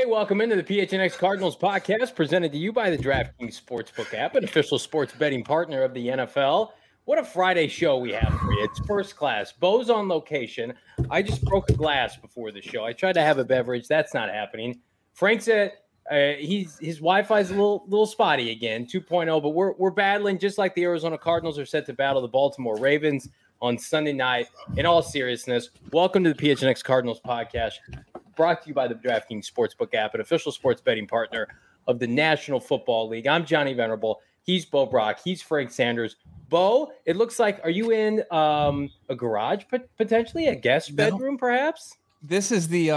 Hey, welcome into the PHNX Cardinals podcast presented to you by the DraftKings Sportsbook app, an official sports betting partner of the NFL. What a Friday show we have for you. It's first class. Bo's on location. I just broke a glass before the show. I tried to have a beverage. That's not happening. Frank said his Wi-Fi is a little spotty again, 2.0, but we're battling just like the Arizona Cardinals are set to battle the Baltimore Ravens on Sunday night. In all seriousness, welcome to the PHNX Cardinals podcast, brought to you by the DraftKings Sportsbook app, an official sports betting partner of the National Football League. I'm Johnny Venerable. He's Bo Brock. He's Frank Sanders. Bo, it looks like, are you in a garage potentially, a guest bedroom perhaps? This is the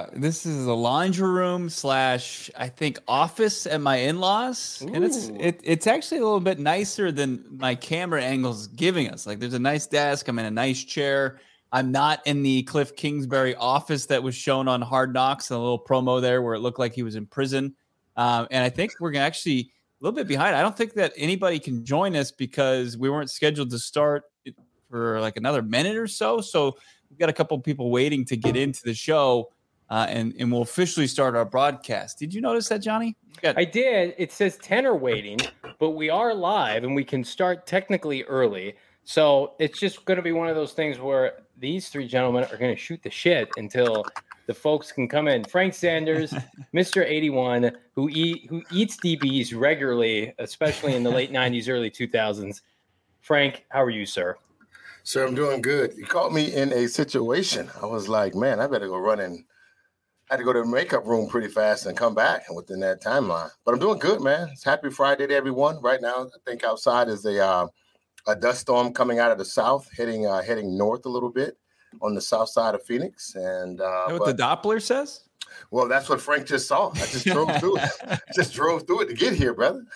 laundry room / I think office at my in-laws. Ooh. And it's actually a little bit nicer than my camera angle's giving us. Like, there's a nice desk. I'm in a nice chair. I'm not in the Cliff Kingsbury office that was shown on Hard Knocks, a little promo there where it looked like he was in prison. And I think we're gonna actually a little bit behind. I don't think that anybody can join us because we weren't scheduled to start for like another minute or so. So we've got a couple of people waiting to get into the show, and we'll officially start our broadcast. Did you notice that, Johnny? I did. It says 10 are waiting, but we are live and we can start technically early. So it's just going to be one of those things where these three gentlemen are going to shoot the shit until the folks can come in. Frank Sanders, Mr. 81, who eats DBs regularly, especially in the late 90s, early 2000s. Frank, how are you, sir? Sir, I'm doing good. You caught me in a situation. I was like, man, I better go run in. I had to go to the makeup room pretty fast and come back within that timeline. But I'm doing good, man. It's happy Friday to everyone. Right now, I think outside is a dust storm coming out of the south, heading north a little bit on the south side of Phoenix. And what the Doppler says? Well, that's what Frank just saw. I just drove through it. Just drove through it to get here, brother.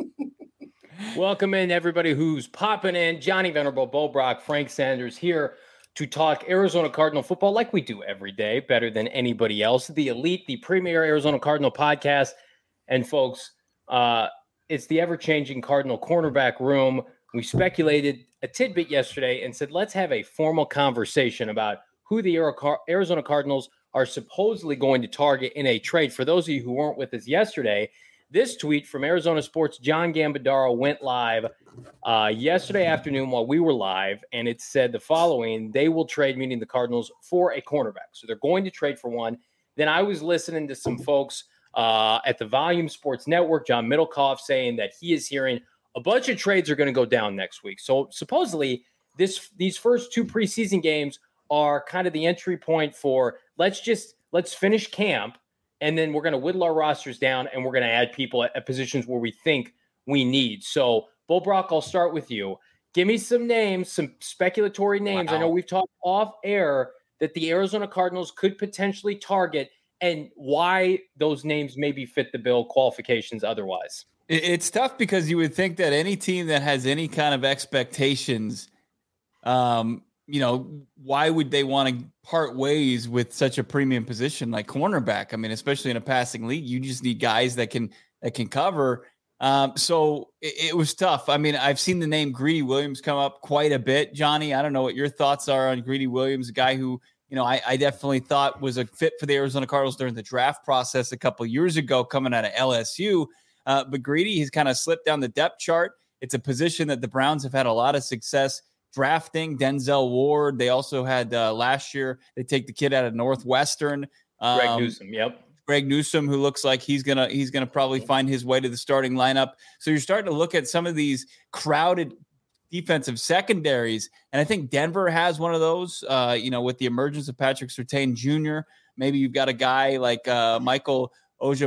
Welcome in everybody who's popping in. Johnny Venerable, Bo Brock, Frank Sanders here to talk Arizona Cardinal football like we do every day, better than anybody else. The elite, the premier Arizona Cardinal podcast. And folks, it's the ever-changing Cardinal cornerback room. We speculated a tidbit yesterday and said, let's have a formal conversation about who the Arizona Cardinals are supposedly going to target in a trade. For those of you who weren't with us yesterday, this tweet from Arizona Sports' John Gambadaro went live yesterday afternoon while we were live, and it said the following: they will trade, meaning the Cardinals, for a cornerback. So they're going to trade for one. Then I was listening to some folks at the Volume Sports Network, John Middlecoff, saying that he is hearing a bunch of trades are going to go down next week. So supposedly these first two preseason games are kind of the entry point for let's finish camp, and then we're going to whittle our rosters down and we're going to add people at positions where we think we need. So, Bo Brock, I'll start with you. Give me some names, some speculatory names. Wow. I know we've talked off air that the Arizona Cardinals could potentially target, and why those names maybe fit the bill, qualifications otherwise. It's tough because you would think that any team that has any kind of expectations, why would they want to part ways with such a premium position like cornerback? I mean, especially in a passing league, you just need guys that can cover. So it was tough. I mean, I've seen the name Greedy Williams come up quite a bit. Johnny, I don't know what your thoughts are on Greedy Williams, a guy who, I definitely thought was a fit for the Arizona Cardinals during the draft process a couple of years ago coming out of LSU. But Greedy has kind of slipped down the depth chart. It's a position that the Browns have had a lot of success drafting. Denzel Ward. They also had last year, they take the kid out of Northwestern. Greg Newsome, yep. Greg Newsome, who looks like he's gonna probably find his way to the starting lineup. So you're starting to look at some of these crowded defensive secondaries, and I think Denver has one of those. With the emergence of Patrick Surtain Jr., maybe you've got a guy like Michael Oja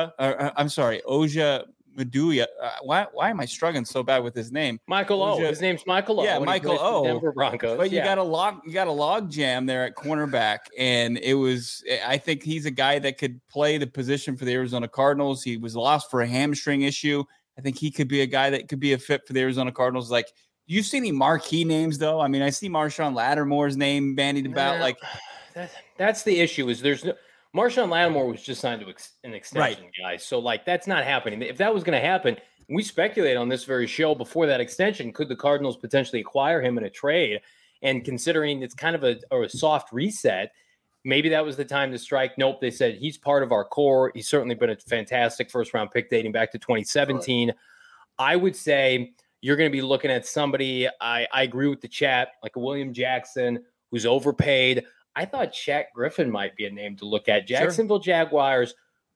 Maduya. Why am I struggling so bad with his name? Michael O. His name's Michael O. Yeah, Michael O. Denver Broncos. But you got a log jam there at cornerback, and I think he's a guy that could play the position for the Arizona Cardinals. He was lost for a hamstring issue. I think he could be a guy that could be a fit for the Arizona Cardinals. Like, do you see any marquee names though? I mean, I see Marshawn Lattimore's name bandied about. That's the issue. Is there's no. Marshawn Lattimore was just signed to an extension, right, guys. So, that's not happening. If that was going to happen, we speculated on this very show before that extension, could the Cardinals potentially acquire him in a trade? And considering it's kind of a soft reset, maybe that was the time to strike. Nope, they said he's part of our core. He's certainly been a fantastic first-round pick dating back to 2017. Right. I would say you're going to be looking at somebody, I agree with the chat, like a William Jackson, who's overpaid. I thought Shaq Griffin might be a name to look at. Jacksonville Jaguars,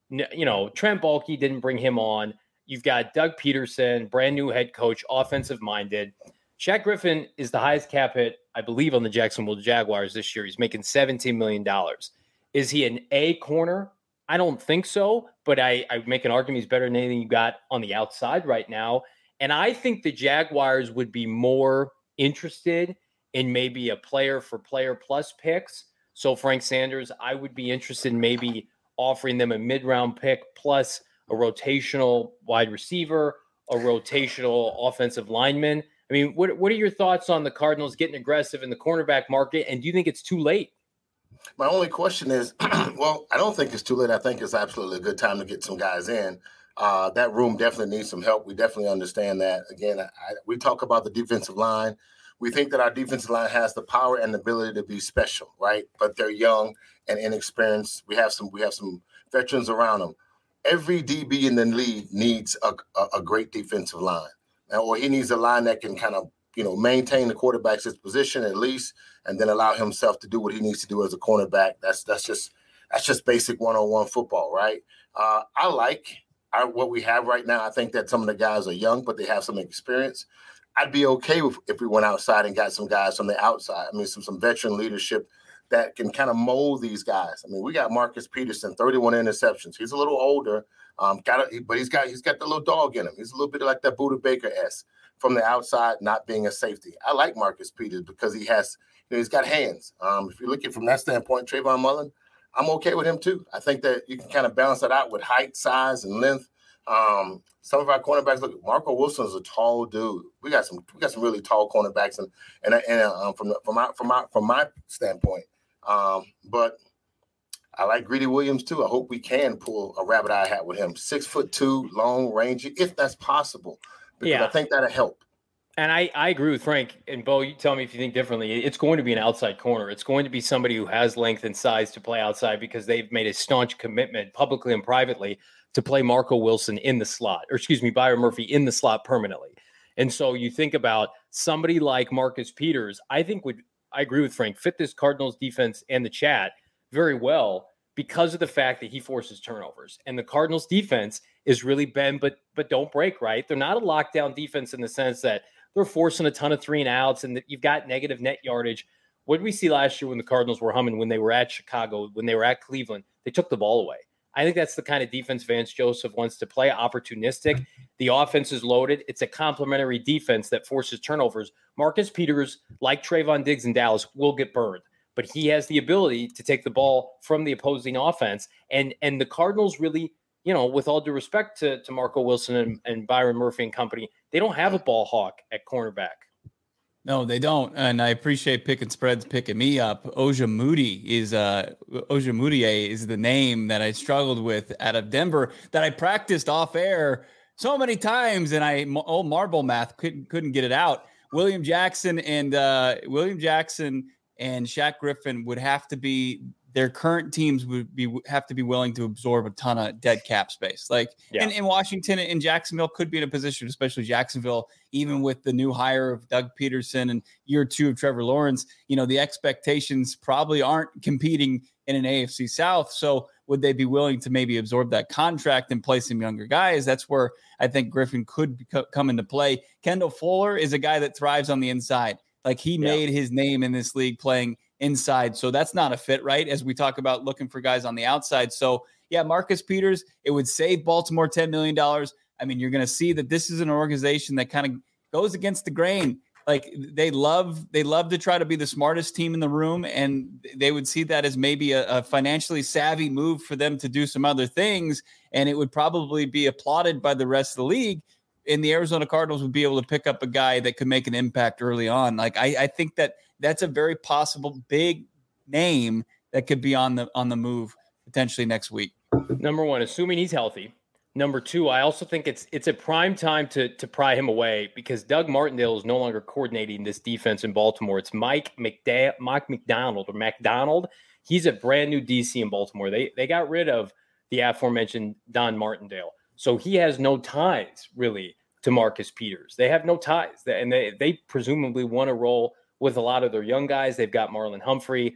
Trent Baalke didn't bring him on. You've got Doug Peterson, brand new head coach, offensive-minded. Shaq Griffin is the highest cap hit, I believe, on the Jacksonville Jaguars this year. He's making $17 million. Is he an A corner? I don't think so, but I make an argument he's better than anything you got on the outside right now. And I think the Jaguars would be more interested in maybe a player-for-player plus picks. So Frank Sanders, I would be interested in maybe offering them a mid-round pick plus a rotational wide receiver, a rotational offensive lineman. I mean, what are your thoughts on the Cardinals getting aggressive in the cornerback market? And do you think it's too late? My only question is, well, I don't think it's too late. I think it's absolutely a good time to get some guys in. That room definitely needs some help. We definitely understand that. Again, we talk about the defensive line. We think that our defensive line has the power and the ability to be special, right? But they're young and inexperienced. We have some veterans around them. Every DB in the league needs a great defensive line, or he needs a line that can kind of, maintain the quarterback's position at least, and then allow himself to do what he needs to do as a cornerback. That's just basic one-on-one football, right? I like what we have right now. I think that some of the guys are young, but they have some experience. I'd be okay if we went outside and got some guys from the outside. I mean, some veteran leadership that can kind of mold these guys. I mean, we got Marcus Peterson, 31 interceptions. He's a little older, but he's got the little dog in him. He's a little bit like that Budda Baker-esque from the outside, not being a safety. I like Marcus Peters because he's got hands. If you're looking from that standpoint, Trayvon Mullen, I'm okay with him too. I think that you can kind of balance that out with height, size, and length. Some of our cornerbacks, look, Marco Wilson is a tall dude. We got some really tall cornerbacks, and from my standpoint. But I like Greedy Williams too. I hope we can pull a rabbit eye hat with him. 6'2", long, rangy, if that's possible, because I think that'll help. And I agree with Frank. And Bo, you tell me if you think differently. It's going to be an outside corner. It's going to be somebody who has length and size to play outside because they've made a staunch commitment publicly and privately to play Marco Wilson in the slot, Byron Murphy in the slot permanently. And so you think about somebody like Marcus Peters, I agree with Frank, fit this Cardinals defense and the chat very well because of the fact that he forces turnovers. And the Cardinals defense is really bend, but don't break, right? They're not a lockdown defense in the sense that they're forcing a ton of 3-and-outs and that you've got negative net yardage. What did we see last year when the Cardinals were humming, when they were at Chicago, when they were at Cleveland? They took the ball away. I think that's the kind of defense Vance Joseph wants to play, opportunistic. The offense is loaded. It's a complementary defense that forces turnovers. Marcus Peters, like Trayvon Diggs in Dallas, will get burned, but he has the ability to take the ball from the opposing offense. And the Cardinals really, with all due respect to Marco Wilson and Byron Murphy and company, they don't have a ball hawk at cornerback. No, they don't. And I appreciate Picking Spreads picking me up. Ojemudia is the name that I struggled with out of Denver that I practiced off air so many times, and old marble math couldn't get it out. William Jackson and Shaq Griffin would have to be, their current teams have to be willing to absorb a ton of dead cap space. And Washington and Jacksonville could be in a position, especially Jacksonville, even with the new hire of Doug Peterson and year 2 of Trevor Lawrence, the expectations probably aren't competing in an AFC South. So would they be willing to maybe absorb that contract and play some younger guys? That's where I think Griffin could come into play. Kendall Fuller is a guy that thrives on the inside. He made his name in this league playing inside. So that's not a fit, right? As we talk about looking for guys on the outside. So Marcus Peters, it would save Baltimore $10 million. I mean, you're going to see that this is an organization that kind of goes against the grain. They love to try to be the smartest team in the room. And they would see that as maybe a financially savvy move for them to do some other things. And it would probably be applauded by the rest of the league. And the Arizona Cardinals would be able to pick up a guy that could make an impact early on. I think that's a very possible big name that could be on the move potentially next week. Number one, assuming he's healthy. Number two, I also think it's a prime time to pry him away because Doug Martindale is no longer coordinating this defense in Baltimore. It's Mike McDonald. He's a brand new DC in Baltimore. They got rid of the aforementioned Don Martindale. So he has no ties really to Marcus Peters. They have no ties. And they presumably want to roll with a lot of their young guys. They've got Marlon Humphrey.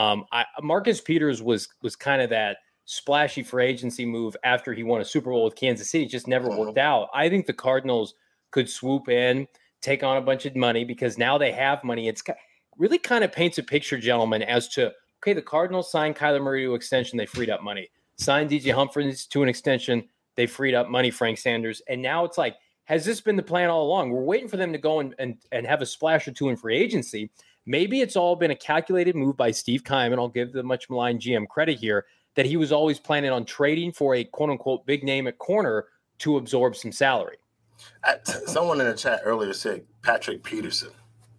Marcus Peters was kind of that splashy free agency move after he won a Super Bowl with Kansas City. It just never worked out. I think the Cardinals could swoop in, take on a bunch of money because now they have money. It's really kind of paints a picture, gentlemen, as to, okay, the Cardinals signed Kyler Murray to extension. They freed up money. Signed DJ Humphries to an extension. They freed up money, Frank Sanders. And now it's like, has this been the plan all along? We're waiting for them to go and have a splash or two in free agency. Maybe it's all been a calculated move by Steve Keim, and I'll give the much maligned GM credit here, that he was always planning on trading for a quote-unquote big name at corner to absorb some salary. Someone in the chat earlier said Patrick Peterson.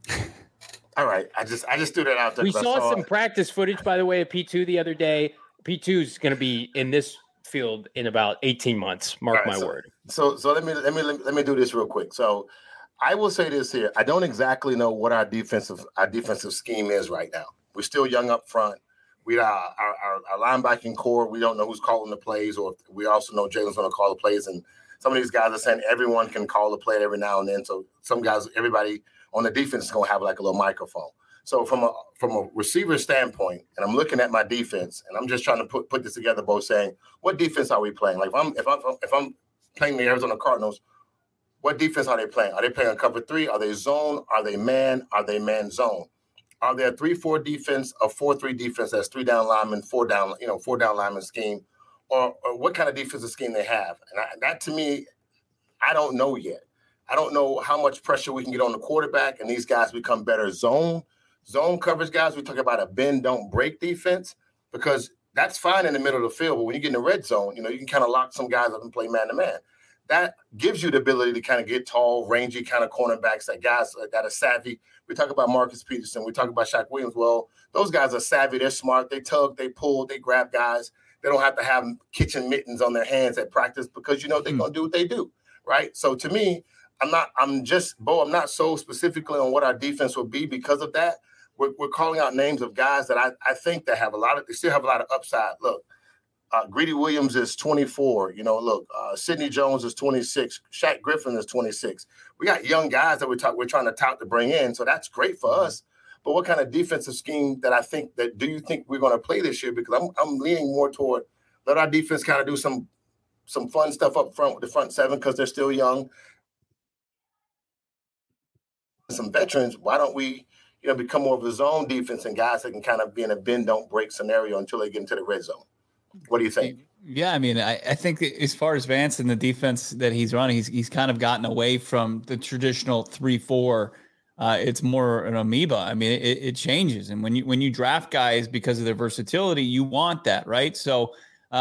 All right, I just threw that out there. We saw some practice footage, by the way, of P2 the other day. P2 is going to be in this field in about 18 months. Mark my word. So let me do this real quick. So I will say this here. I don't exactly know what our defensive scheme is right now. We're still young up front. We our linebacking core. We don't know who's calling the plays, or we also know Jalen's going to call the plays. And some of these guys are saying everyone can call the play every now and then. So some guys, everybody on the defense is going to have like a little microphone. So from a receiver standpoint, and I'm looking at my defense, and I'm just trying to put this together, both saying, what defense are we playing? Like if I'm playing the Arizona Cardinals, what defense are they playing? Are they playing a cover 3? Are they zone? Are they man? Are they man zone? Are there a 3-4 defense, a 4-3 defense that's 3 down linemen, 4 down lineman scheme, or what kind of defensive scheme they have? And that to me, I don't know yet. I don't know how much pressure we can get on the quarterback, and these guys become better zone coverage guys. We talk about a bend, don't break defense, because that's fine in the middle of the field. But when you get in the red zone, you can kind of lock some guys up and play man to man. That gives you the ability to kind of get tall, rangy kind of cornerbacks, that guys that are savvy. We talk about Marcus Peterson. We talk about Shaq Williams. Well, those guys are savvy. They're smart. They tug, they pull, they grab guys. They don't have to have kitchen mittens on their hands at practice because, they're going to do what they do, right? So to me, I'm not so specifically on what our defense will be because of that. We're calling out names of guys that I think that they still have a lot of upside. Look, Greedy Williams is 24. Sidney Jones is 26. Shaq Griffin is 26. We got young guys that we're trying to tout to bring in, so that's great for us. But what kind of defensive scheme do you think we're going to play this year? Because I'm leaning more toward let our defense kind of do some fun stuff up front with the front seven because they're still young. Some veterans, why don't we become more of a zone defense and guys that can kind of be in a bend, don't break scenario until they get into the red zone? What do you think? Yeah, I mean, I think as far as Vance and the defense that he's running, he's kind of gotten away from the traditional 3-4. It's more an amoeba. I mean, it changes. And when you draft guys because of their versatility, you want that, right? So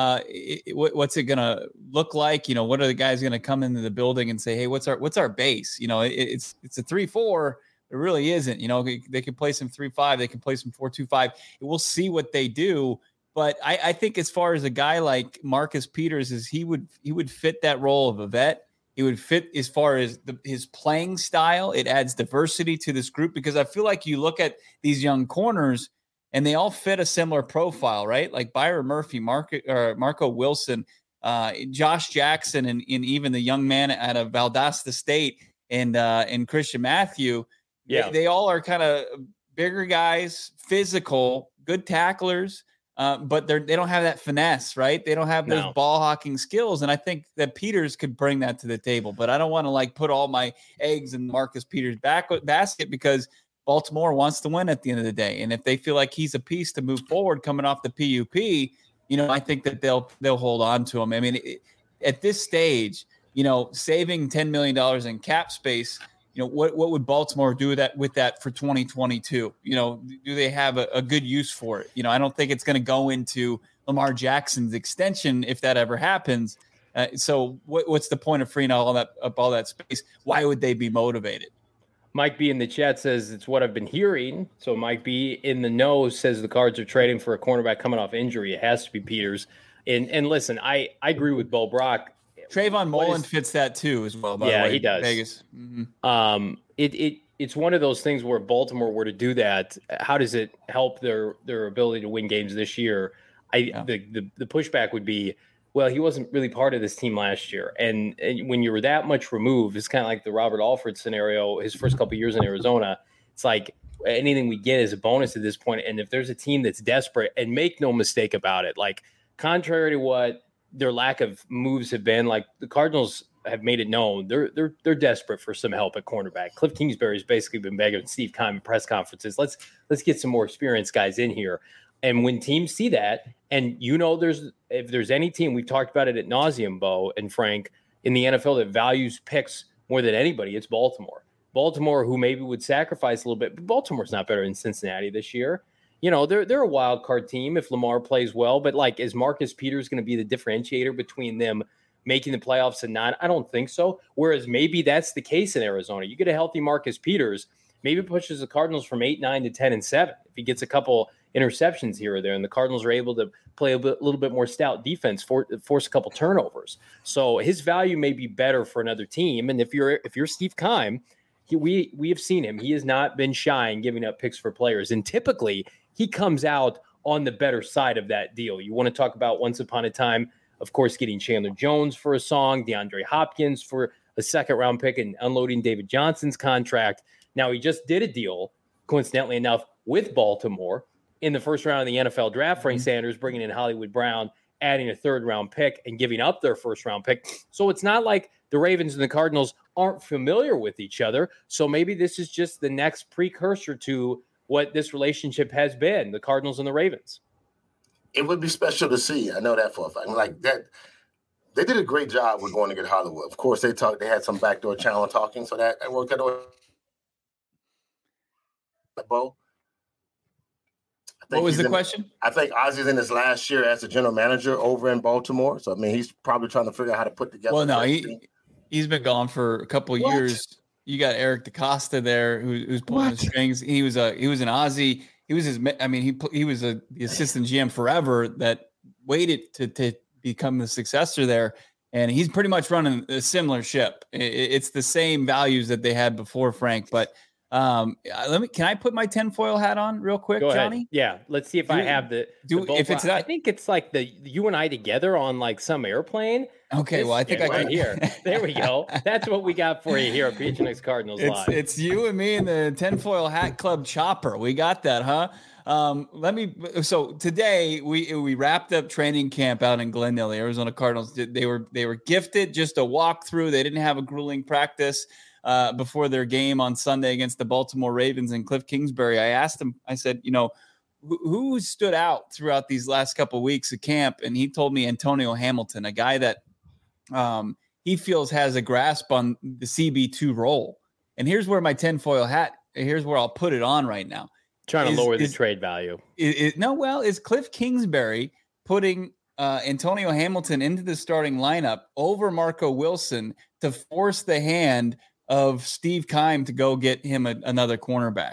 what's it going to look like? What are the guys going to come into the building and say, hey, what's our base? It's a 3-4. It really isn't. They can play some 3-5. They can play some 4-2-5. We'll see what they do. But I think as far as a guy like Marcus Peters is, he would fit that role of a vet. He would fit as far as his playing style. It adds diversity to this group because I feel like you look at these young corners and they all fit a similar profile, right? Like Byron Murphy, Marco Wilson, Josh Jackson, and even the young man out of Valdosta State and Christian Matthew. Yeah, they all are kind of bigger guys, physical, good tacklers. But they don't have that finesse, right? They don't have those ball hawking skills. And I think that Peters could bring that to the table. But I don't want to put all my eggs in Marcus Peters' basket because Baltimore wants to win at the end of the day. And if they feel like he's a piece to move forward coming off the PUP, I think that they'll hold on to him. I mean, at this stage, saving $10 million in cap space, what would Baltimore do with that for 2022? Do they have a good use for it? I don't think it's going to go into Lamar Jackson's extension if that ever happens. So what's the point of freeing all that space? Why would they be motivated? Mike B in the chat says it's what I've been hearing. So Mike B in the know says the Cards are trading for a cornerback coming off injury. It has to be Peters. And listen, I agree with Bo Brock. Trayvon Mullen fits that too as well. By the way, he does. Vegas. Mm-hmm. it's one of those things where Baltimore were to do that. How does it help their ability to win games this year? The pushback would be, well, he wasn't really part of this team last year. And when you were that much removed, it's kind of like the Robert Alford scenario, his first couple of years in Arizona. It's like anything we get is a bonus at this point. And if there's a team that's desperate, and make no mistake about it, like contrary to what their lack of moves have been, like the Cardinals have made it known, they're desperate for some help at cornerback. Cliff Kingsbury's basically been begging Steve Keim in press conferences, let's get some more experienced guys in here. And when teams see that, and if there's any team, we've talked about it ad nauseum, Bo and Frank, in the NFL that values picks more than anybody, it's Baltimore. Baltimore, who maybe would sacrifice a little bit, but Baltimore's not better than Cincinnati this year. They're a wild card team if Lamar plays well, but like, is Marcus Peters going to be the differentiator between them making the playoffs and not? I don't think so. Whereas maybe that's the case in Arizona. You get a healthy Marcus Peters, maybe it pushes the Cardinals from 8-9 to 10-7. If he gets a couple interceptions here or there, and the Cardinals are able to play a little bit more stout defense, force a couple turnovers. So his value may be better for another team. And if you're Steve Keim, we have seen him. He has not been shy in giving up picks for players. And typically he comes out on the better side of that deal. You want to talk about once upon a time, of course, getting Chandler Jones for a song, DeAndre Hopkins for a second-round pick, and unloading David Johnson's contract. Now, he just did a deal, coincidentally enough, with Baltimore in the first round of the NFL draft. Frank Sanders bringing in Hollywood Brown, adding a third-round pick, and giving up their first-round pick. So it's not like the Ravens and the Cardinals aren't familiar with each other. So maybe this is just the next precursor to what this relationship has been, the Cardinals and the Ravens. It would be special to see. I know that for a fact. Like that, they did a great job with going to get Hollywood. Of course, they had some backdoor channel talking, so that worked out. Bo, what was the question? I think Ozzy's in his last year as a general manager over in Baltimore. So, I mean, he's probably trying to figure out how to put together. Well, no, he's been gone for a couple of years. You got Eric DeCosta there who's pulling the strings. He was an Ozzy. He was he was the assistant GM forever that waited to become the successor there. And he's pretty much running a similar ship. It's the same values that they had before, Frank. But can I put my tinfoil hat on real quick, Go Johnny? ahead. Yeah, let's see if I have if it's not. I think it's like you and I together on like some airplane. Okay, well, I think I can here. There we go. That's what we got for you here at PHNX Cardinals Live. It's you and me and the tinfoil hat club chopper. We got that, huh? So today we wrapped up training camp out in Glendale. The Arizona Cardinals, they were gifted just a walkthrough. They didn't have a grueling practice before their game on Sunday against the Baltimore Ravens and Cliff Kingsbury. I asked him, I said, who stood out throughout these last couple of weeks of camp? And he told me Antonio Hamilton, a guy that he feels has a grasp on the CB2 role. And here's where my tinfoil hat, here's where I'll put it on right now. Trying to lower the trade value. Is Cliff Kingsbury putting Antonio Hamilton into the starting lineup over Marco Wilson to force the hand of Steve Keim to go get him another cornerback?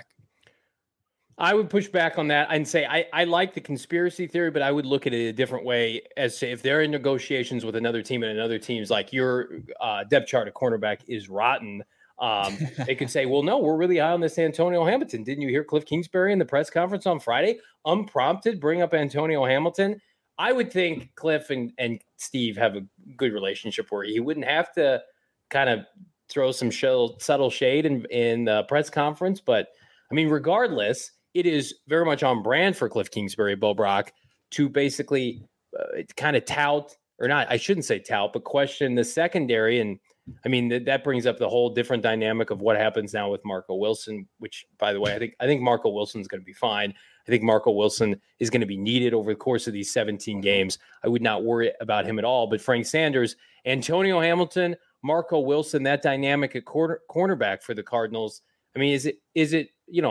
I would push back on that and say I like the conspiracy theory, but I would look at it a different way as to if they're in negotiations with another team and another team's like your depth chart at cornerback is rotten. They could say, well, no, we're really high on this Antonio Hamilton. Didn't you hear Cliff Kingsbury in the press conference on Friday? Unprompted, bring up Antonio Hamilton. I would think Cliff and Steve have a good relationship where he wouldn't have to kind of throw some subtle shade in the press conference. But, I mean, regardless, it is very much on brand for Cliff Kingsbury, Bo Brock, to basically kind of tout, or not, I shouldn't say tout, but question the secondary. And, I mean, that brings up the whole different dynamic of what happens now with Marco Wilson, which, by the way, I think Marco Wilson's going to be fine. I think Marco Wilson is going to be needed over the course of these 17 games. I would not worry about him at all. But Frank Sanders, Antonio Hamilton, Marco Wilson, that dynamic at cornerback for the Cardinals. I mean, is it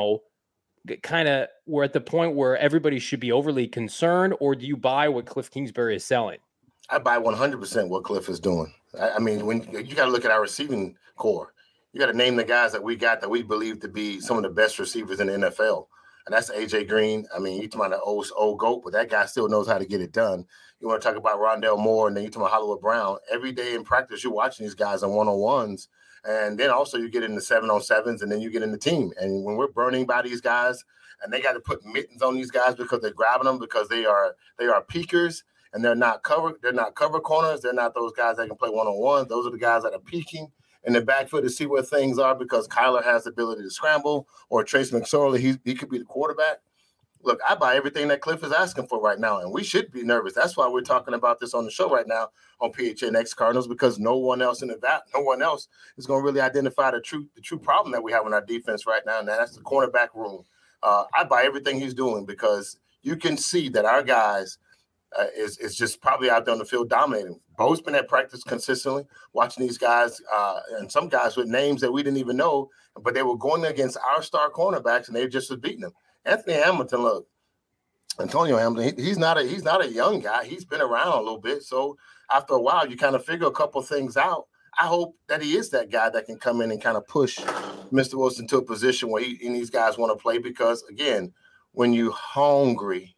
kind of we're at the point where everybody should be overly concerned, or do you buy what Cliff Kingsbury is selling? I buy 100% what Cliff is doing. I mean, when you got to look at our receiving core, you got to name the guys that we got that we believe to be some of the best receivers in the NFL. And that's AJ Green. I mean, you talking about the old GOAT, but that guy still knows how to get it done. You want to talk about Rondale Moore, and then you talking about Hollywood Brown. Every day in practice, you're watching these guys on one-on-ones, And then also you get into 7-on-7s, and then you get in the team. And when we're burning by these guys, and they got to put mittens on these guys because they're grabbing them because they are peakers, and they're not cover corners. They're not those guys that can play one-on-one. Those are the guys that are peeking in the backfield to see where things are because Kyler has the ability to scramble, or Trace McSorley, he could be the quarterback. Look, I buy everything that Cliff is asking for right now, and we should be nervous. That's why we're talking about this on the show right now on PHNX Cardinals, because no one else is going to really identify the true problem that we have in our defense right now, and that's the cornerback room. I buy everything he's doing because you can see that our guys is just probably out there on the field dominating. Bo's been at practice consistently, watching these guys, and some guys with names that we didn't even know, but they were going against our star cornerbacks, and they just was beating them. Anthony Hamilton, look, Antonio Hamilton, he's not a young guy. He's been around a little bit. So after a while, you kind of figure a couple of things out. I hope that he is that guy that can come in and kind of push Mr. Wilson to a position where and these guys want to play because, again, when you're hungry.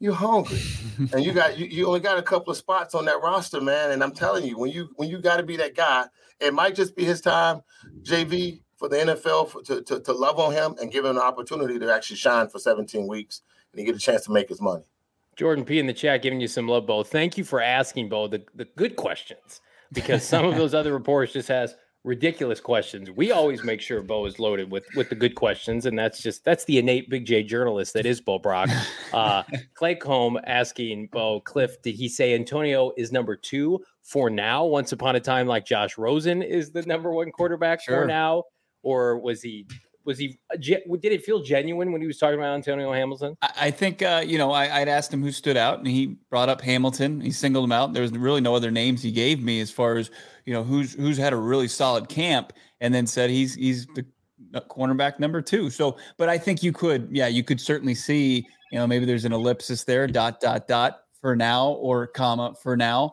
And you only got a couple of spots on that roster, man. And I'm telling you, when you got to be that guy, it might just be his time, JV, for the NFL to love on him and give him an opportunity to actually shine for 17 weeks and he get a chance to make his money. Jordan P in the chat giving you some love, Bo. Thank you for asking, Bo, the good questions, because some of those other reporters just has ridiculous questions. We always make sure Bo is loaded with the good questions, and that's the innate Big J journalist that is Bo Brock. Clay Combe asking Bo, Cliff, did he say Antonio is number 2 for now? Once upon a time, like Josh Rosen is the number 1 quarterback for now, or was he? Did it feel genuine when he was talking about Antonio Hamilton? I think I'd asked him who stood out, and he brought up Hamilton. He singled him out. There was really no other names he gave me as far as who's had a really solid camp, and then said he's the cornerback number 2. So, but I think you could certainly see maybe there's an ellipsis there, ... for now, or comma for now.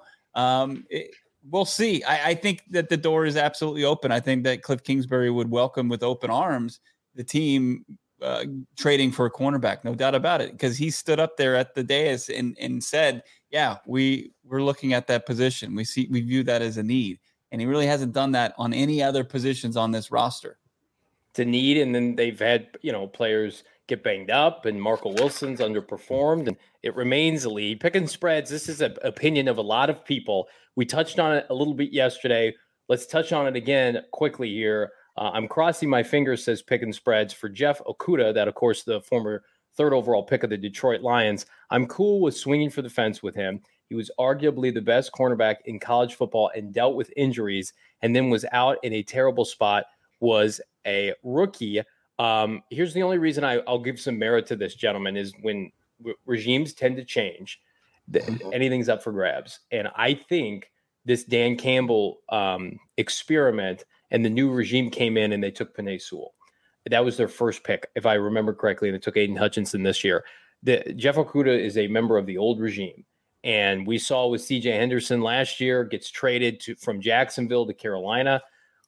We'll see. I think that the door is absolutely open. I think that Cliff Kingsbury would welcome with open arms the team trading for a cornerback, no doubt about it, because he stood up there at the dais and said, yeah, we're looking at that position. We view that as a need. And he really hasn't done that on any other positions on this roster. It's a need, and then they've had, players get banged up, and Marco Wilson's underperformed, and it remains a lead. Picking spreads, this is an opinion of a lot of people. We touched on it a little bit yesterday. Let's touch on it again quickly here. I'm crossing my fingers, says Picking Spreads, for Jeff Okudah, that, of course, the former 3rd overall pick of the Detroit Lions. I'm cool with swinging for the fence with him. He was arguably the best cornerback in college football and dealt with injuries, and then was out in a terrible spot, was a rookie. Here's the only reason I'll give some merit to this gentleman is when regimes tend to change, anything's up for grabs. And I think this Dan Campbell experiment and the new regime came in and they took Penei Sewell. That was their first pick, if I remember correctly, and they took Aiden Hutchinson this year. Jeff Okudah is a member of the old regime. And we saw with C.J. Henderson last year, gets traded from Jacksonville to Carolina.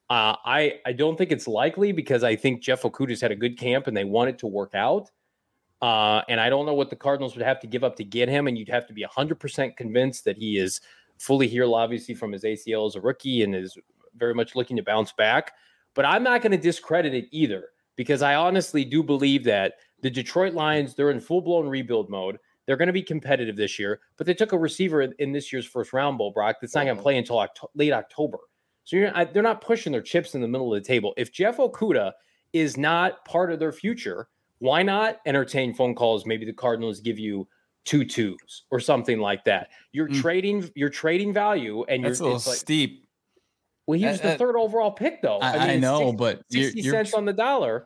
I don't think it's likely because I think Jeff Okudah's had a good camp and they want it to work out. And I don't know what the Cardinals would have to give up to get him. And you'd have to be 100% convinced that he is fully healed, obviously, from his ACL as a rookie and is very much looking to bounce back. But I'm not going to discredit it either, because I honestly do believe that the Detroit Lions, they're in full-blown rebuild mode. They're going to be competitive this year, but they took a receiver in this year's first round, Bo Brock, that's not going to play until late October. So they're not pushing their chips in the middle of the table. If Jeff Okudah is not part of their future, why not entertain phone calls? Maybe the Cardinals give you 2 2s or something like that. You're trading value, and that's a little steep. Well, he was the 3rd overall pick, though. I know, but 60 cents on the dollar.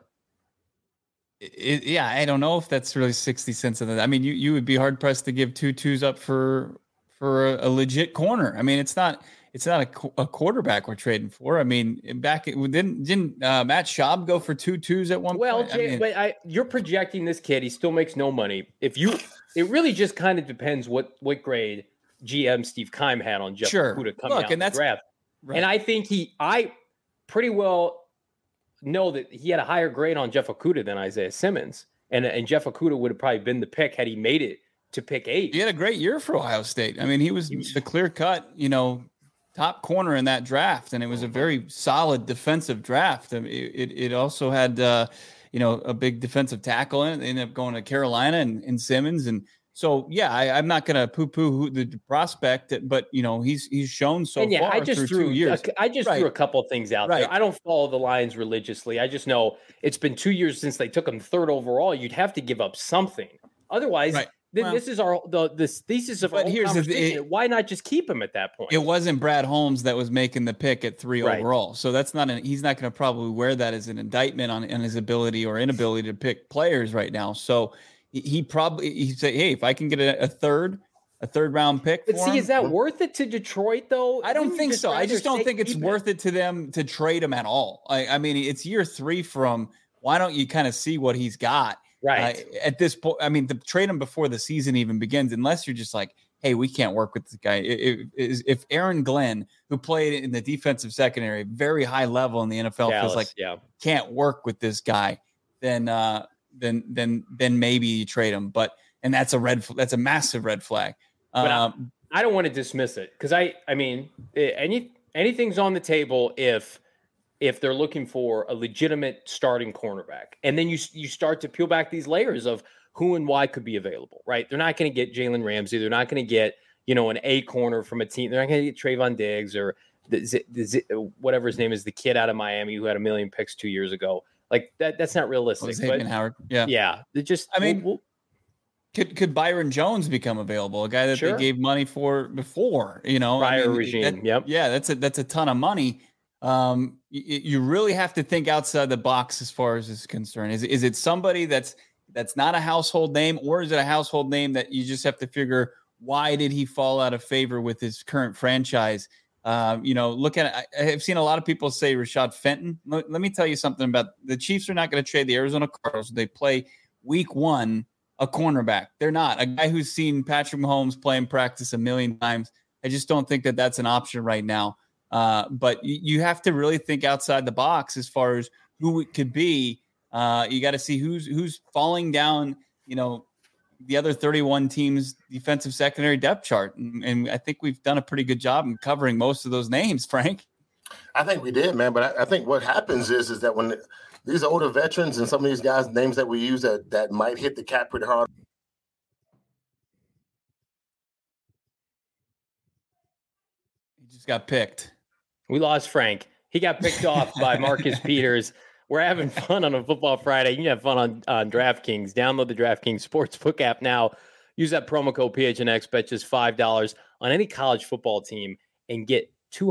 I don't know if that's really 60 cents on the. I mean, you would be hard pressed to give 2 2s up for a legit corner. I mean, it's not a quarterback we're trading for. I mean, didn't Matt Schaub go for 2 2s at one point? But you're projecting this kid. He still makes no money. It really just kind of depends what grade GM Steve Keim had on Jeff Okudah coming out in the draft. Right. And I think I pretty well know that he had a higher grade on Jeff Okudah than Isaiah Simmons. And Jeff Okudah would have probably been the pick had he made it to pick 8. He had a great year for Ohio State. I mean, he was the clear cut, top corner in that draft, and it was a very solid defensive draft. I mean, it also had a big defensive tackle in it. They ended up going to Carolina and Simmons, and so I'm not going to poo-poo the prospect, but he's shown so far. I just through 2 years. I just threw a couple of things out there. I don't follow the Lions religiously. I just know it's been 2 years since they took him third overall. You'd have to give up something, otherwise. Right. This is the thesis of our whole conversation. Why not just keep him at that point? It wasn't Brad Holmes that was making the pick at 3 overall. So that's he's not going to probably wear that as an indictment on his ability or inability to pick players right now. So he said, hey, if I can get a third round pick. But is that worth it to Detroit though? I don't think so. I just don't think it's worth it to them to trade him at all. I mean, it's year 3 from, why don't you kind of see what he's got? Right. At this point, I mean, to trade him before the season even begins, unless you're just like, hey, we can't work with this guy. If Aaron Glenn, who played in the defensive secondary, very high level in the NFL, feels like can't work with this guy, then maybe you trade him. And that's a massive red flag. But I don't want to dismiss it, because I mean, anything's on the table if they're looking for a legitimate starting cornerback. And then you start to peel back these layers of who and why could be available, right? They're not going to get Jalen Ramsey. They're not going to get, an A corner from a team. They're not going to get Trayvon Diggs or whatever his name is, the kid out of Miami who had 1 million picks 2 years ago. Like that's not realistic. Xavier Howard. Yeah. Yeah. Could Byron Jones become available? A guy that they gave money for before, prior regime. Yeah. That's a ton of money. You really have to think outside the box as far as this is concerned. Is it somebody that's not a household name, or is it a household name that you just have to figure, why did he fall out of favor with his current franchise? Look at it. I've seen a lot of people say Rashad Fenton. Let me tell you something about the Chiefs are not going to trade the Arizona Cardinals. They play week 1 a cornerback. They're not a guy who's seen Patrick Mahomes play in practice 1 million times. I just don't think that that's an option right now. But you have to really think outside the box as far as who it could be. You got to see who's falling down, the other 31 teams' defensive secondary depth chart. And I think we've done a pretty good job in covering most of those names, Frank. I think we did, man. But I think what happens is that when these older veterans and some of these guys' names that we use that might hit the cap pretty hard. He just got picked. We lost Frank. He got picked off by Marcus Peters. We're having fun on a Football Friday. You can have fun on DraftKings. Download the DraftKings Sportsbook app now. Use that promo code PHNX. Bet just $5 on any college football team and get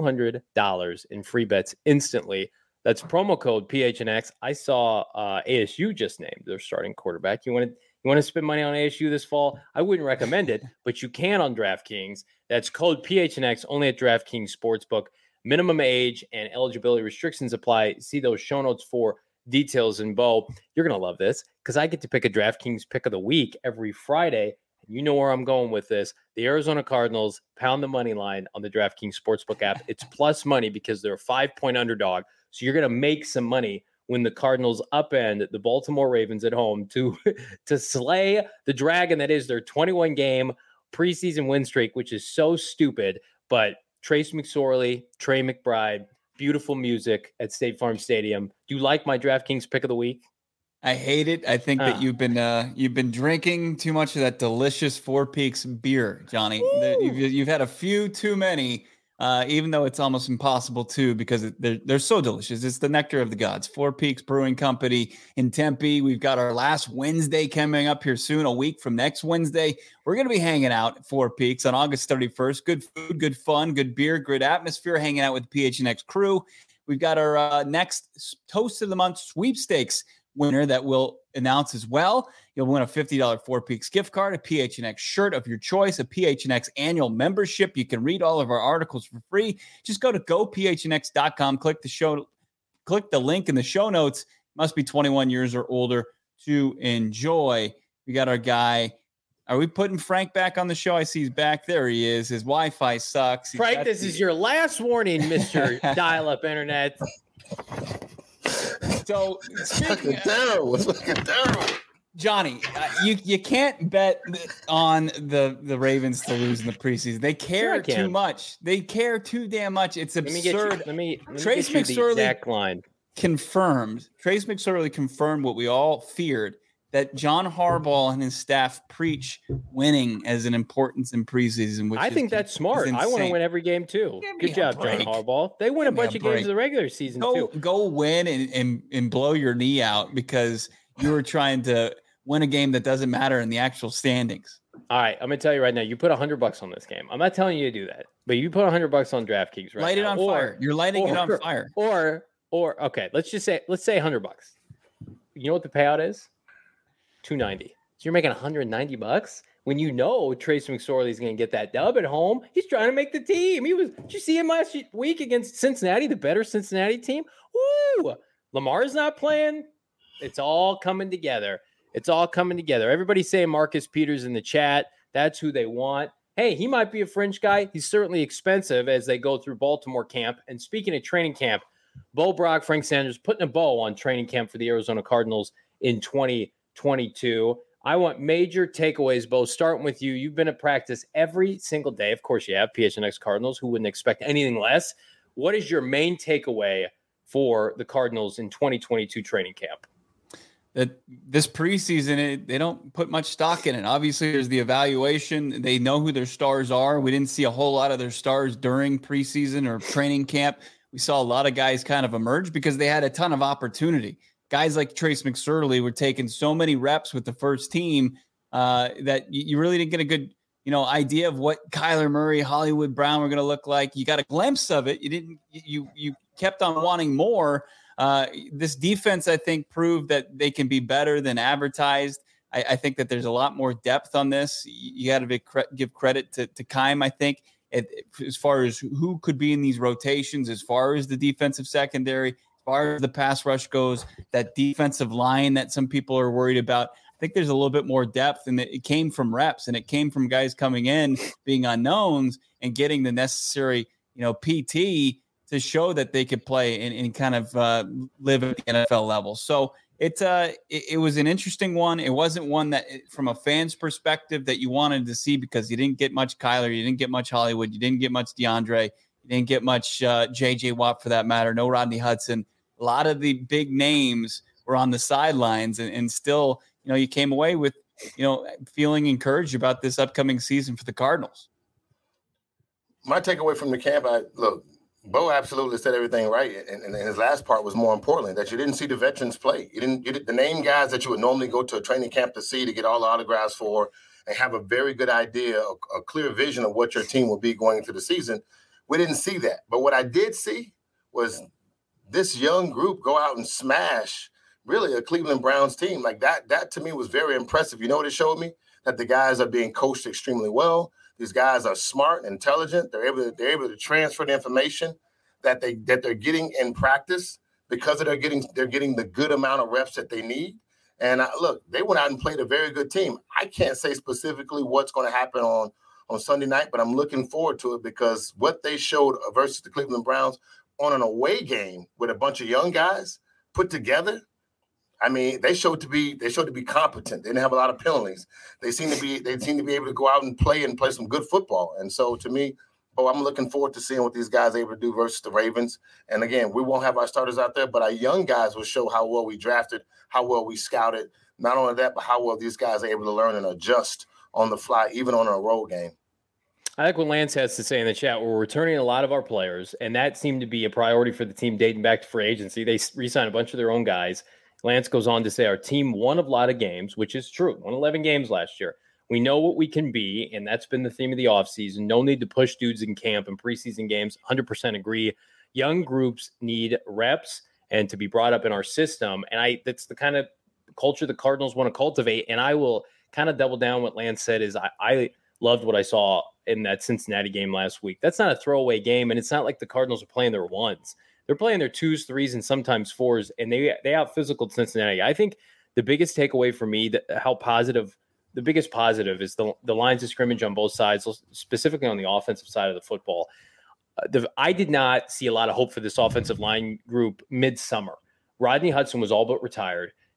$200 in free bets instantly. That's promo code PHNX. I saw ASU just named their starting quarterback. You want to spend money on ASU this fall? I wouldn't recommend it, but you can on DraftKings. That's code PHNX only at DraftKings Sportsbook. Minimum age and eligibility restrictions apply. See those show notes for details. And Bo, you're going to love this because I get to pick a DraftKings pick of the week every Friday. And you know where I'm going with this. The Arizona Cardinals pound the money line on the DraftKings Sportsbook app. It's plus money because they're a 5-point underdog. So you're going to make some money when the Cardinals upend the Baltimore Ravens at home to slay the dragon that is their 21-game preseason win streak, which is so stupid. But Trace McSorley, Trey McBride, beautiful music at State Farm Stadium. Do you like my DraftKings pick of the week? I hate it. I think that you've been drinking too much of that delicious Four Peaks beer, Johnny. You've had a few too many, even though it's almost impossible to, because they're so delicious. It's the nectar of the gods. Four Peaks Brewing Company in Tempe. We've got our last Wednesday coming up here soon, a week from next Wednesday. We're going to be hanging out at Four Peaks on August 31st. Good food, good fun, good beer, good atmosphere, hanging out with the PHNX crew. We've got our next Toast of the Month sweepstakes winner that we'll announce as well. You'll win a $50 Four Peaks gift card, a PHNX shirt of your choice, a PHNX annual membership. You can read all of our articles for free. Just go to gophnx.com, click the link in the show notes. Must be 21 years or older to enjoy. We got our guy. Are we putting Frank back on the show? I see he's back. There he is. His Wi-Fi sucks. Frank, this is your last warning, Mr. Dial-Up Internet. So it's fucking terrible. It's fucking terrible. Johnny, you can't bet on the Ravens to lose in the preseason. They care too much. They care too damn much. It's absurd. Let me Trace get you the exact line. Confirmed. Trace McSorley confirmed what we all feared, that John Harbaugh and his staff preach winning as an importance in preseason. Which I think that's smart. I want to win every game too. Good job, John Harbaugh. They win a bunch of games in the regular season too. Go win and blow your knee out because you were trying to win a game that doesn't matter in the actual standings. All right, I'm gonna tell you right now. You put $100 on this game. I'm not telling you to do that, but you put $100 on DraftKings. Right, light it on fire. You're lighting it on fire. Or okay, let's say $100. You know what the payout is? $290. So you're making $190 when you know Trace McSorley is going to get that dub at home. He's trying to make the team. Did you see him last week against Cincinnati, the better Cincinnati team? Woo! Lamar's not playing. It's all coming together. Everybody's saying Marcus Peters in the chat. That's who they want. Hey, he might be a fringe guy. He's certainly expensive as they go through Baltimore camp. And speaking of training camp, Bo Brock, Frank Sanders putting a bow on training camp for the Arizona Cardinals in 2022. I want major takeaways, Bo, starting with you. You've been at practice every single day. Of course you have, PHNX Cardinals. Who wouldn't expect anything less? What is your main takeaway for the Cardinals in 2022 training camp? That this preseason, they don't put much stock in it. Obviously, there's the evaluation. They know who their stars are. We didn't see a whole lot of their stars during preseason or training camp. We saw a lot of guys kind of emerge because they had a ton of opportunity. Guys like Trace McSorley were taking so many reps with the first team that you really didn't get a good, idea of what Kyler Murray, Hollywood Brown were going to look like. You got a glimpse of it. You kept on wanting more. This defense, I think, proved that they can be better than advertised. I think that there's a lot more depth on this. You got to give credit to Keim, I think, as far as who could be in these rotations, as far as the defensive secondary, as far as the pass rush goes, that defensive line that some people are worried about. I think there's a little bit more depth, and it came from reps, and it came from guys coming in, being unknowns, and getting the necessary, PT to show that they could play and kind of live at the NFL level. So it was an interesting one. It wasn't one that, from a fan's perspective, that you wanted to see because you didn't get much Kyler, you didn't get much Hollywood, you didn't get much DeAndre, you didn't get much J.J. Watt for that matter, no Rodney Hudson. A lot of the big names were on the sidelines, and still, you came away with, feeling encouraged about this upcoming season for the Cardinals. My takeaway from the camp, Bo absolutely said everything right, and his last part was more importantly, that you didn't see the veterans play. You didn't the name guys that you would normally go to a training camp to see, to get all the autographs for, and have a very good idea, a clear vision of what your team will be going into the season. We didn't see that. But what I did see was this young group go out and smash really a Cleveland Browns team. Like that to me was very impressive. You know what it showed me? That the guys are being coached extremely well. These guys are smart and intelligent. They're able to transfer the information that they're getting in practice because they're getting the good amount of reps that they need. And they went out and played a very good team. I can't say specifically what's going to happen on Sunday night, but I'm looking forward to it because what they showed versus the Cleveland Browns on an away game with a bunch of young guys put together. I mean, they showed to be competent. They didn't have a lot of penalties. They seem to be able to go out and play some good football. And so to me, I'm looking forward to seeing what these guys are able to do versus the Ravens. And again, we won't have our starters out there, but our young guys will show how well we drafted, how well we scouted. Not only that, but how well these guys are able to learn and adjust on the fly, even on a road game. I like what Lance has to say in the chat. We're returning a lot of our players, and that seemed to be a priority for the team dating back to free agency. They re-signed a bunch of their own guys. Lance goes on to say our team won a lot of games, which is true. Won 11 games last year. We know what we can be, and that's been the theme of the offseason. No need to push dudes in camp and preseason games. 100% agree. Young groups need reps and to be brought up in our system, and that's the kind of culture the Cardinals want to cultivate, and I will kind of double down what Lance said is I loved what I saw in that Cincinnati game last week. That's not a throwaway game, and it's not like the Cardinals are playing their ones. They're playing their 2s, 3s, and sometimes 4s, and they out-physicaled Cincinnati. I think the biggest takeaway for me, the biggest positive is the lines of scrimmage on both sides, specifically on the offensive side of the football. I did not see a lot of hope for this offensive line group midsummer. Rodney Hudson was all but retired.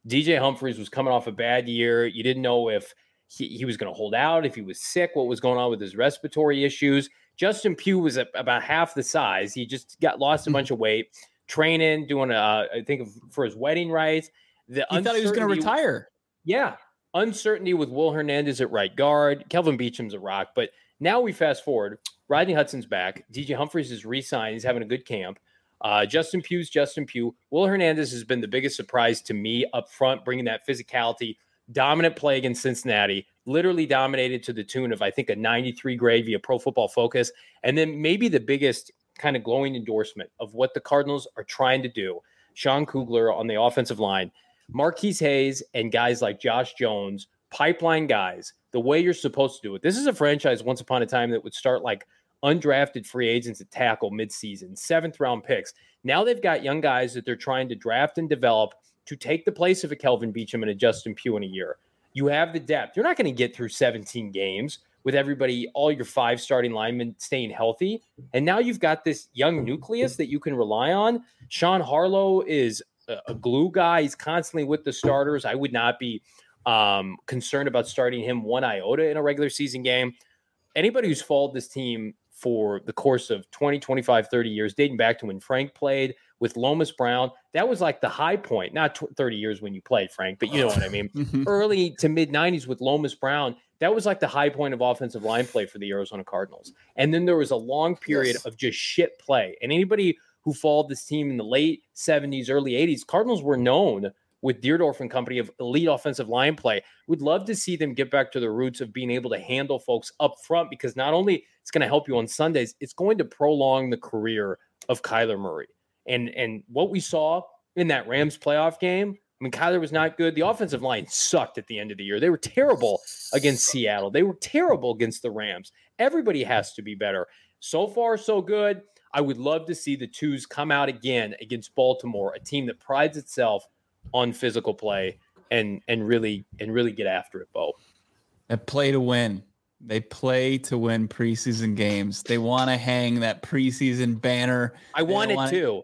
DJ Humphries was coming off a bad year. You didn't know if he was going to hold out, if he was sick, what was going on with his respiratory issues. Justin Pugh was about half the size. He just lost a bunch of weight, training, doing, I think, for his wedding rites. He thought he was going to retire. Yeah. Uncertainty with Will Hernandez at right guard. Kelvin Beacham's a rock. But now we fast forward. Rodney Hudson's back. DJ Humphries is re-signed. He's having a good camp. Justin Pugh's Justin Pugh. Will Hernandez has been the biggest surprise to me up front, bringing that physicality. Dominant play against Cincinnati, literally dominated to the tune of, I think, a 93 grade via Pro Football Focus. And then maybe the biggest kind of glowing endorsement of what the Cardinals are trying to do. Sean Kugler on the offensive line, Marquise Hayes, and guys like Josh Jones, pipeline guys, the way you're supposed to do it. This is a franchise once upon a time that would start like undrafted free agents at tackle midseason, 7th round picks. Now they've got young guys that they're trying to draft and develop to take the place of a Kelvin Beachum and a Justin Pugh in a year. You have the depth. You're not going to get through 17 games with everybody, all your 5 starting linemen staying healthy. And now you've got this young nucleus that you can rely on. Sean Harlow is a glue guy. He's constantly with the starters. I would not be concerned about starting him one iota in a regular season game. Anybody who's followed this team for the course of 20, 25, 30 years, dating back to when Frank played with Lomas Brown, that was like the high point, not 30 years when you played, Frank, but you know what I mean. Early to mid 90s with Lomas Brown, that was like the high point of offensive line play for the Arizona Cardinals. And then there was a long period of just shit play. And anybody who followed this team in the late 70s, early 80s, Cardinals were known with Deerdorf and company of elite offensive line play. We'd love to see them get back to the roots of being able to handle folks up front, because not only it's going to help you on Sundays, it's going to prolong the career of Kyler Murray. And what we saw in that Rams playoff game, I mean, Kyler was not good. The offensive line sucked at the end of the year. They were terrible against Seattle. They were terrible against the Rams. Everybody has to be better. So far, so good. I would love to see the twos come out again against Baltimore, a team that prides itself on physical play and really get after it, Bo. They play to win. They play to win preseason games. They want to hang that preseason banner. I want it too.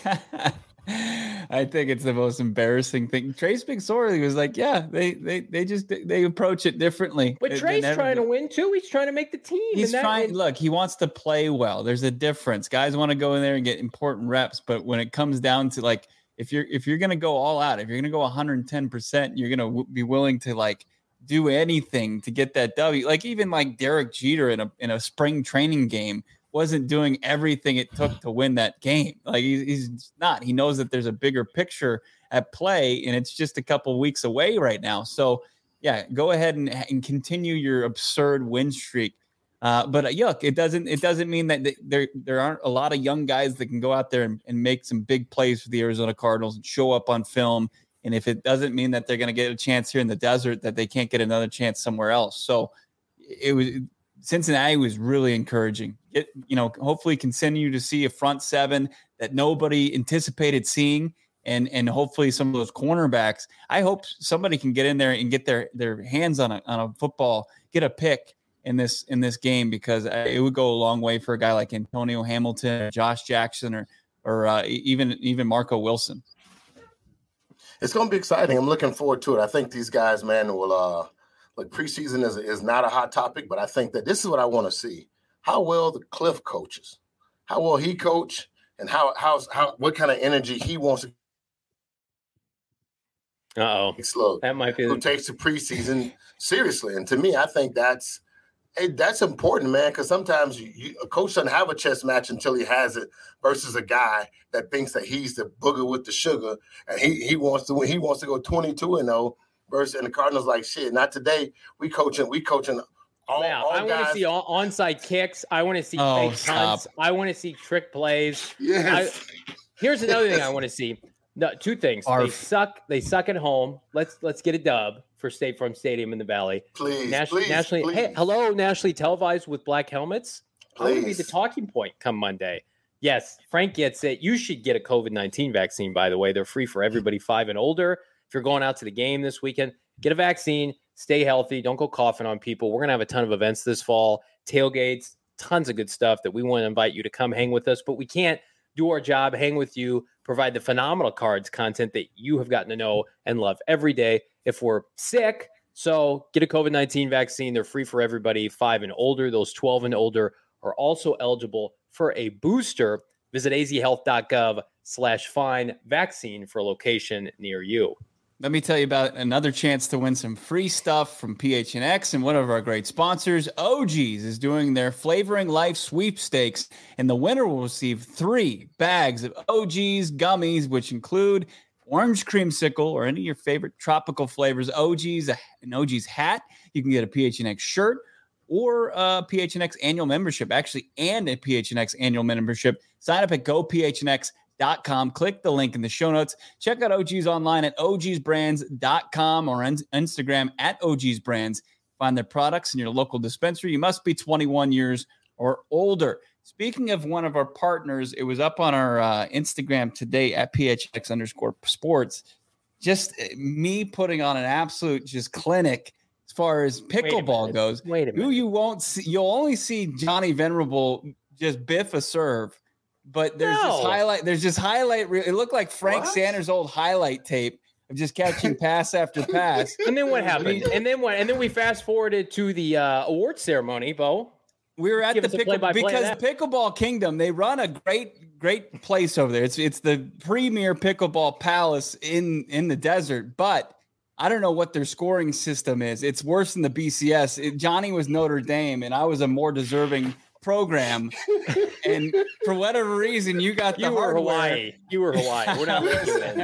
I think it's the most embarrassing thing. Trace McSorley was like, yeah, they approach it differently. But Trey's trying to win too. He's trying to make the team. He's trying. Look, he wants to play well. There's a difference. Guys want to go in there and get important reps, but when it comes down to like, if you're going to go all out, if you're going to go 110%, you're going to be willing to like do anything to get that W. Like even like Derek Jeter in a spring training game wasn't doing everything it took to win that game. Like he's not. He knows that there's a bigger picture at play, and it's just a couple of weeks away right now. So yeah, go ahead and continue your absurd win streak. But yuck, it doesn't mean that there aren't a lot of young guys that can go out there and make some big plays for the Arizona Cardinals and show up on film. And if it doesn't mean that they're going to get a chance here in the desert, that they can't get another chance somewhere else. So Cincinnati was really encouraging. Hopefully continue to see a front seven that nobody anticipated seeing. And hopefully some of those cornerbacks, I hope somebody can get in there and get their hands on a football, get a pick in this game, because it would go a long way for a guy like Antonio Hamilton, Josh Jackson, or even Marco Wilson. It's going to be exciting. I'm looking forward to it. I think these guys, man, will like preseason is not a hot topic, but I think that this is what I want to see. How well the Cliff coaches, how well he coach, and how what kind of energy he wants to. Slow. That might be who takes the preseason seriously. And to me, I think that's important, man, because sometimes a coach doesn't have a chess match until he has it, versus a guy that thinks that he's the booger with the sugar and he wants to win. He wants to go 22-0 versus, and the Cardinals like, shit, not today. We coaching all I want to see onside kicks. I want to see fake punts. I want to see trick plays. Yes. Here's another thing I want to see. No, two things. They suck at home. Let's get a dub for State Farm Stadium in the Valley. Please, nationally. Please. Hey, hello, nationally televised with black helmets. That would be the talking point come Monday. Yes, Frank gets it. You should get a COVID-19 vaccine, by the way. They're free for everybody 5 and older. If you're going out to the game this weekend, get a vaccine. Stay healthy. Don't go coughing on people. We're going to have a ton of events this fall, tailgates, tons of good stuff that we want to invite you to come hang with us. But we can't do our job, hang with you, provide the phenomenal cards content that you have gotten to know and love every day. If we're sick, so get a COVID-19 vaccine. They're free for everybody 5 and older. Those 12 and older are also eligible for a booster. Visit azhealth.gov/find vaccine for a location near you. Let me tell you about another chance to win some free stuff from PHNX, and one of our great sponsors, OG's, is doing their Flavoring Life sweepstakes, and the winner will receive 3 bags of OG's gummies, which include orange creamsicle or any of your favorite tropical flavors, an OG's hat. You can get a PHNX shirt or a PHNX annual membership, actually, and a PHNX annual membership. Sign up at gophnx.com. Click the link in the show notes. Check out OG's online at ogsbrands.com or Instagram at ogsbrands. Find their products in your local dispensary. You must be 21 years or older. Speaking of one of our partners, it was up on our Instagram today at PHX_sports. Just me putting on an absolute just clinic as far as pickleball goes. Wait a minute. You won't see, you'll only see Johnny Venerable just biff a serve. But there's this highlight. It looked like Frank Sanders' old highlight tape of just catching pass after pass. And then what happened? And then what? And then we fast forwarded to the award ceremony, Bo. We were at the Pickleball Kingdom. They run a great place over there. It's the premier pickleball palace in the desert. But I don't know what their scoring system is. It's worse than the BCS. Johnny was Notre Dame, and I was a more deserving program, and for whatever reason you got the hardware. You were Hawaii. We're not listening.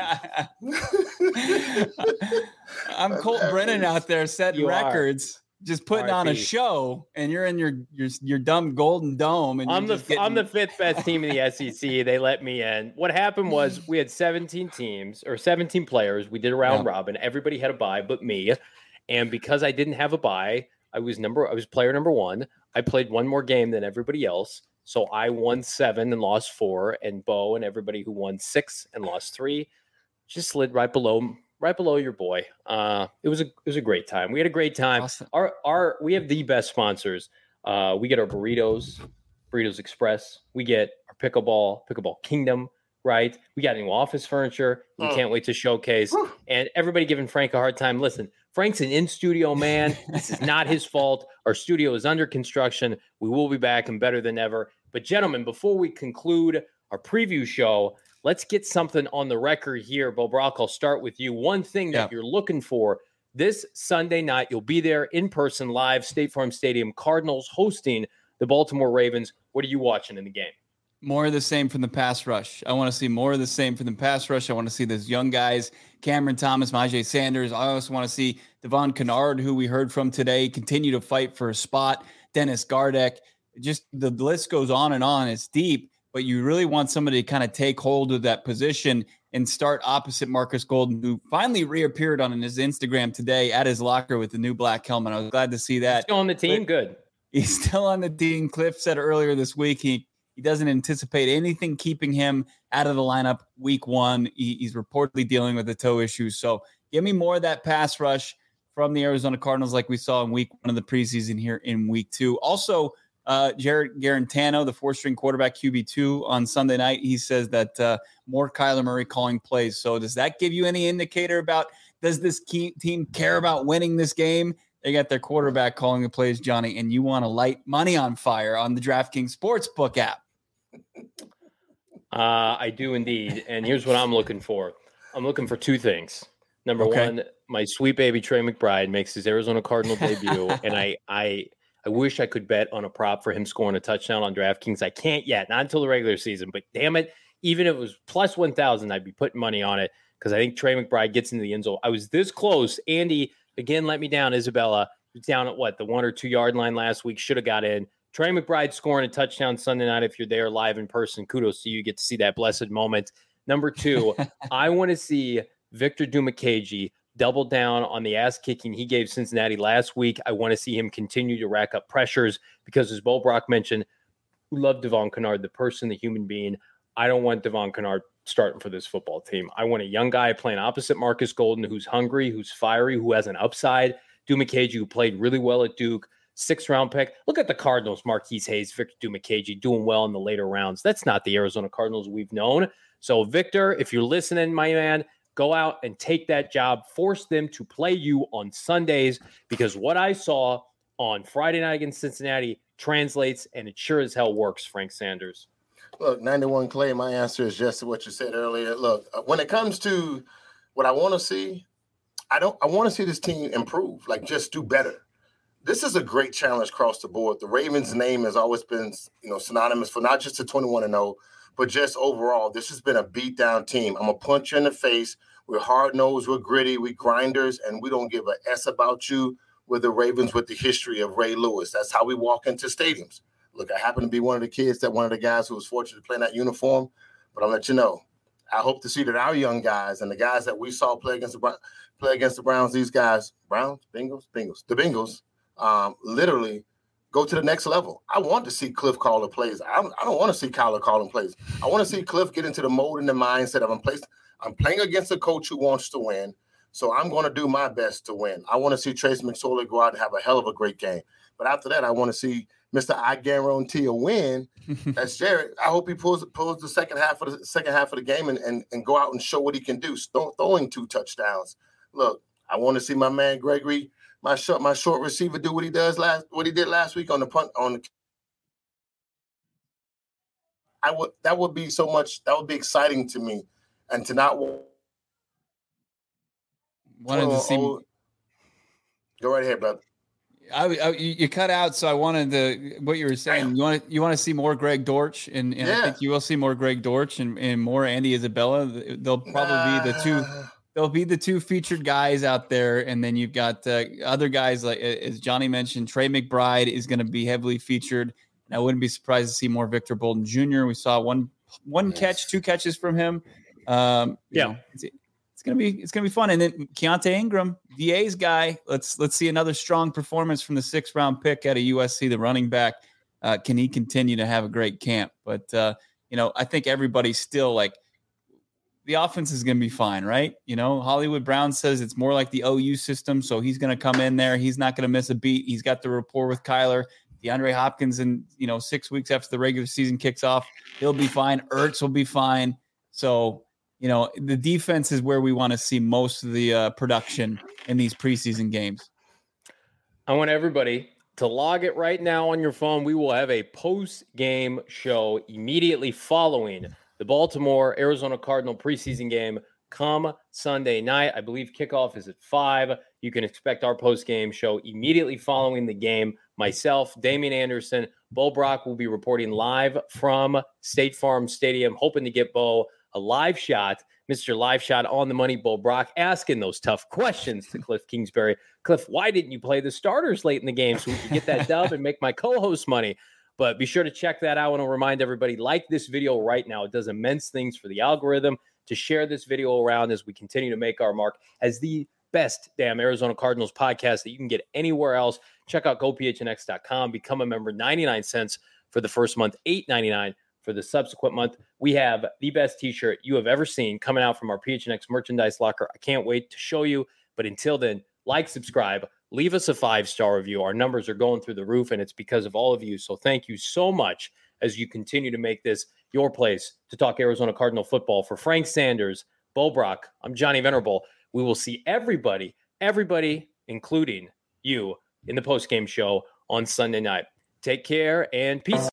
I'm Colt Brennan out there setting records, just putting on a show, and you're in your dumb Golden Dome. And I'm the 5th best team in the SEC. They let me in. What happened was we had 17 teams or 17 players. We did a round robin. Everybody had a bye but me, and because I didn't have a bye, I was player number 1. I played one more game than everybody else. So I won 7 and lost 4. And Bo and everybody who won 6 and lost 3 just slid right below your boy. It was a great time. We had a great time. Awesome. We have the best sponsors. We get our Burritos Express. We get our Pickleball Kingdom, right? We got new office furniture. We can't wait to showcase. And everybody giving Frank a hard time. Listen, Frank's an in-studio man. This is not his fault. Our studio is under construction. We will be back and better than ever. But gentlemen, before we conclude our preview show, let's get something on the record here. Bo Brock, I'll start with you. One thing that you're looking for this Sunday night, you'll be there in person, live, State Farm Stadium, Cardinals hosting the Baltimore Ravens. What are you watching in the game? More of the same from the pass rush. I want to see more of the same from the pass rush. I want to see those young guys, Cameron Thomas, Myjai Sanders. I also want to see Devon Kennard, who we heard from today, continue to fight for a spot. Dennis Gardeck. Just the list goes on and on. It's deep, but you really want somebody to kind of take hold of that position and start opposite Marcus Golden, who finally reappeared on his Instagram today at his locker with the new black helmet. I was glad to see that. He's still on the team? Good. He's still on the team. Cliff said earlier this week he doesn't anticipate anything keeping him out of the lineup week 1. He's reportedly dealing with the toe issues. So give me more of that pass rush from the Arizona Cardinals like we saw in week 1 of the preseason here in week 2. Also, Jared Garantano, the 4-string quarterback QB2 on Sunday night, he says that more Kyler Murray calling plays. So does that give you any indicator about does this team care about winning this game? They got their quarterback calling the plays, Johnny, and you want to light money on fire on the DraftKings Sportsbook app. I do indeed. And here's what I'm looking for. I'm looking for 2 things. Number 1, my sweet baby Trey McBride makes his Arizona Cardinal debut. And I wish I could bet on a prop for him scoring a touchdown on DraftKings. I can't yet, not until the regular season. But damn it, even if it was plus 1,000, I'd be putting money on it because I think Trey McBride gets into the end zone. I was this close. Andy, again, let me down. Isabella was down at the 1 or 2 yard line last week. Should have got in. Trey McBride scoring a touchdown Sunday night. If you're there live in person, kudos to you. You get to see that blessed moment. Number 2, I want to see Victor Dimukeje double down on the ass kicking he gave Cincinnati last week. I want to see him continue to rack up pressures because, as Bo Brock mentioned, we love Devon Kennard, the person, the human being. I don't want Devon Kennard starting for this football team. I want a young guy playing opposite Marcus Golden who's hungry, who's fiery, who has an upside. Dimukeje, who played really well at Duke. 6th-round pick. Look at the Cardinals, Marquise Hayes, Victor Dimukeje doing well in the later rounds. That's not the Arizona Cardinals we've known. So, Victor, if you're listening, my man, go out and take that job. Force them to play you on Sundays, because what I saw on Friday night against Cincinnati translates, and it sure as hell works, Frank Sanders. Look, 91 Clay, my answer is just what you said earlier. Look, when it comes to what I want to see, I want to see this team improve, like just do better. This is a great challenge across the board. The Ravens' name has always been, synonymous for not just the 21-0, but just overall. This has been a beat-down team. I'm going to punch you in the face. We're hard-nosed, we're gritty, we're grinders, and we don't give a S about you. We're the Ravens with the history of Ray Lewis. That's how we walk into stadiums. Look, I happen to be one of the guys who was fortunate to play in that uniform, but I'll let you know. I hope to see that our young guys and the guys that we saw play against the Browns, these guys, the Bengals, literally go to the next level. I want to see Cliff call the plays. I don't want to see Kyler calling plays. I want to see Cliff get into the mode and the mindset of I'm playing against a coach who wants to win, so I'm going to do my best to win. I want to see Trace McSorley go out and have a hell of a great game. But after that, I want to see Mr. I guarantee a win. That's Jared. I hope he pulls the second half of the game and go out and show what he can do. Throwing 2 touchdowns. Look, I want to see my man Gregory, my short receiver, do what he did last week on the punt. That would be so much. That would be exciting to me, and to not wanted to see. Go right ahead, brother. You cut out, so I wanted to what you were saying. Damn. You want to see more Greg Dortch, and Yeah. I think you will see more Greg Dortch and more Andy Isabella. They'll probably be the two. They'll be the 2 featured guys out there, and then you've got other guys like, as Johnny mentioned, Trey McBride is going to be heavily featured. And I wouldn't be surprised to see more Victor Bolden Jr. We saw one catch, 2 catches from him. It's gonna be fun. And then Keontae Ingram, DA's guy. Let's see another strong performance from the 6th round pick out of USC, the running back. Can he continue to have a great camp? But I think everybody's still like, the offense is going to be fine, right? Hollywood Brown says it's more like the OU system, so he's going to come in there. He's not going to miss a beat. He's got the rapport with Kyler. DeAndre Hopkins, and 6 weeks after the regular season kicks off, he'll be fine. Ertz will be fine. So, the defense is where we want to see most of the production in these preseason games. I want everybody to log it right now on your phone. We will have a post-game show immediately following the Baltimore-Arizona Cardinal preseason game come Sunday night. I believe kickoff is at 5. You can expect our post-game show immediately following the game. Myself, Damian Anderson, Bo Brock will be reporting live from State Farm Stadium, hoping to get Bo a live shot, Mr. Live Shot on the money. Bo Brock asking those tough questions to Cliff Kingsbury. Cliff, why didn't you play the starters late in the game so we could get that dub and make my co-host money? But be sure to check that out. I want to remind everybody, like this video right now. It does immense things for the algorithm to share this video around as we continue to make our mark as the best damn Arizona Cardinals podcast that you can get anywhere else. Check out gophnx.com. Become a member, 99 cents for the first month, $8.99 for the subsequent month. We have the best t-shirt you have ever seen coming out from our PHNX merchandise locker. I can't wait to show you. But until then, like, subscribe, leave us a 5-star review. Our numbers are going through the roof, and it's because of all of you. So thank you so much as you continue to make this your place to talk Arizona Cardinal football. For Frank Sanders, Bo Brock, I'm Johnny Venerable. We will see everybody, including you, in the postgame show on Sunday night. Take care and peace.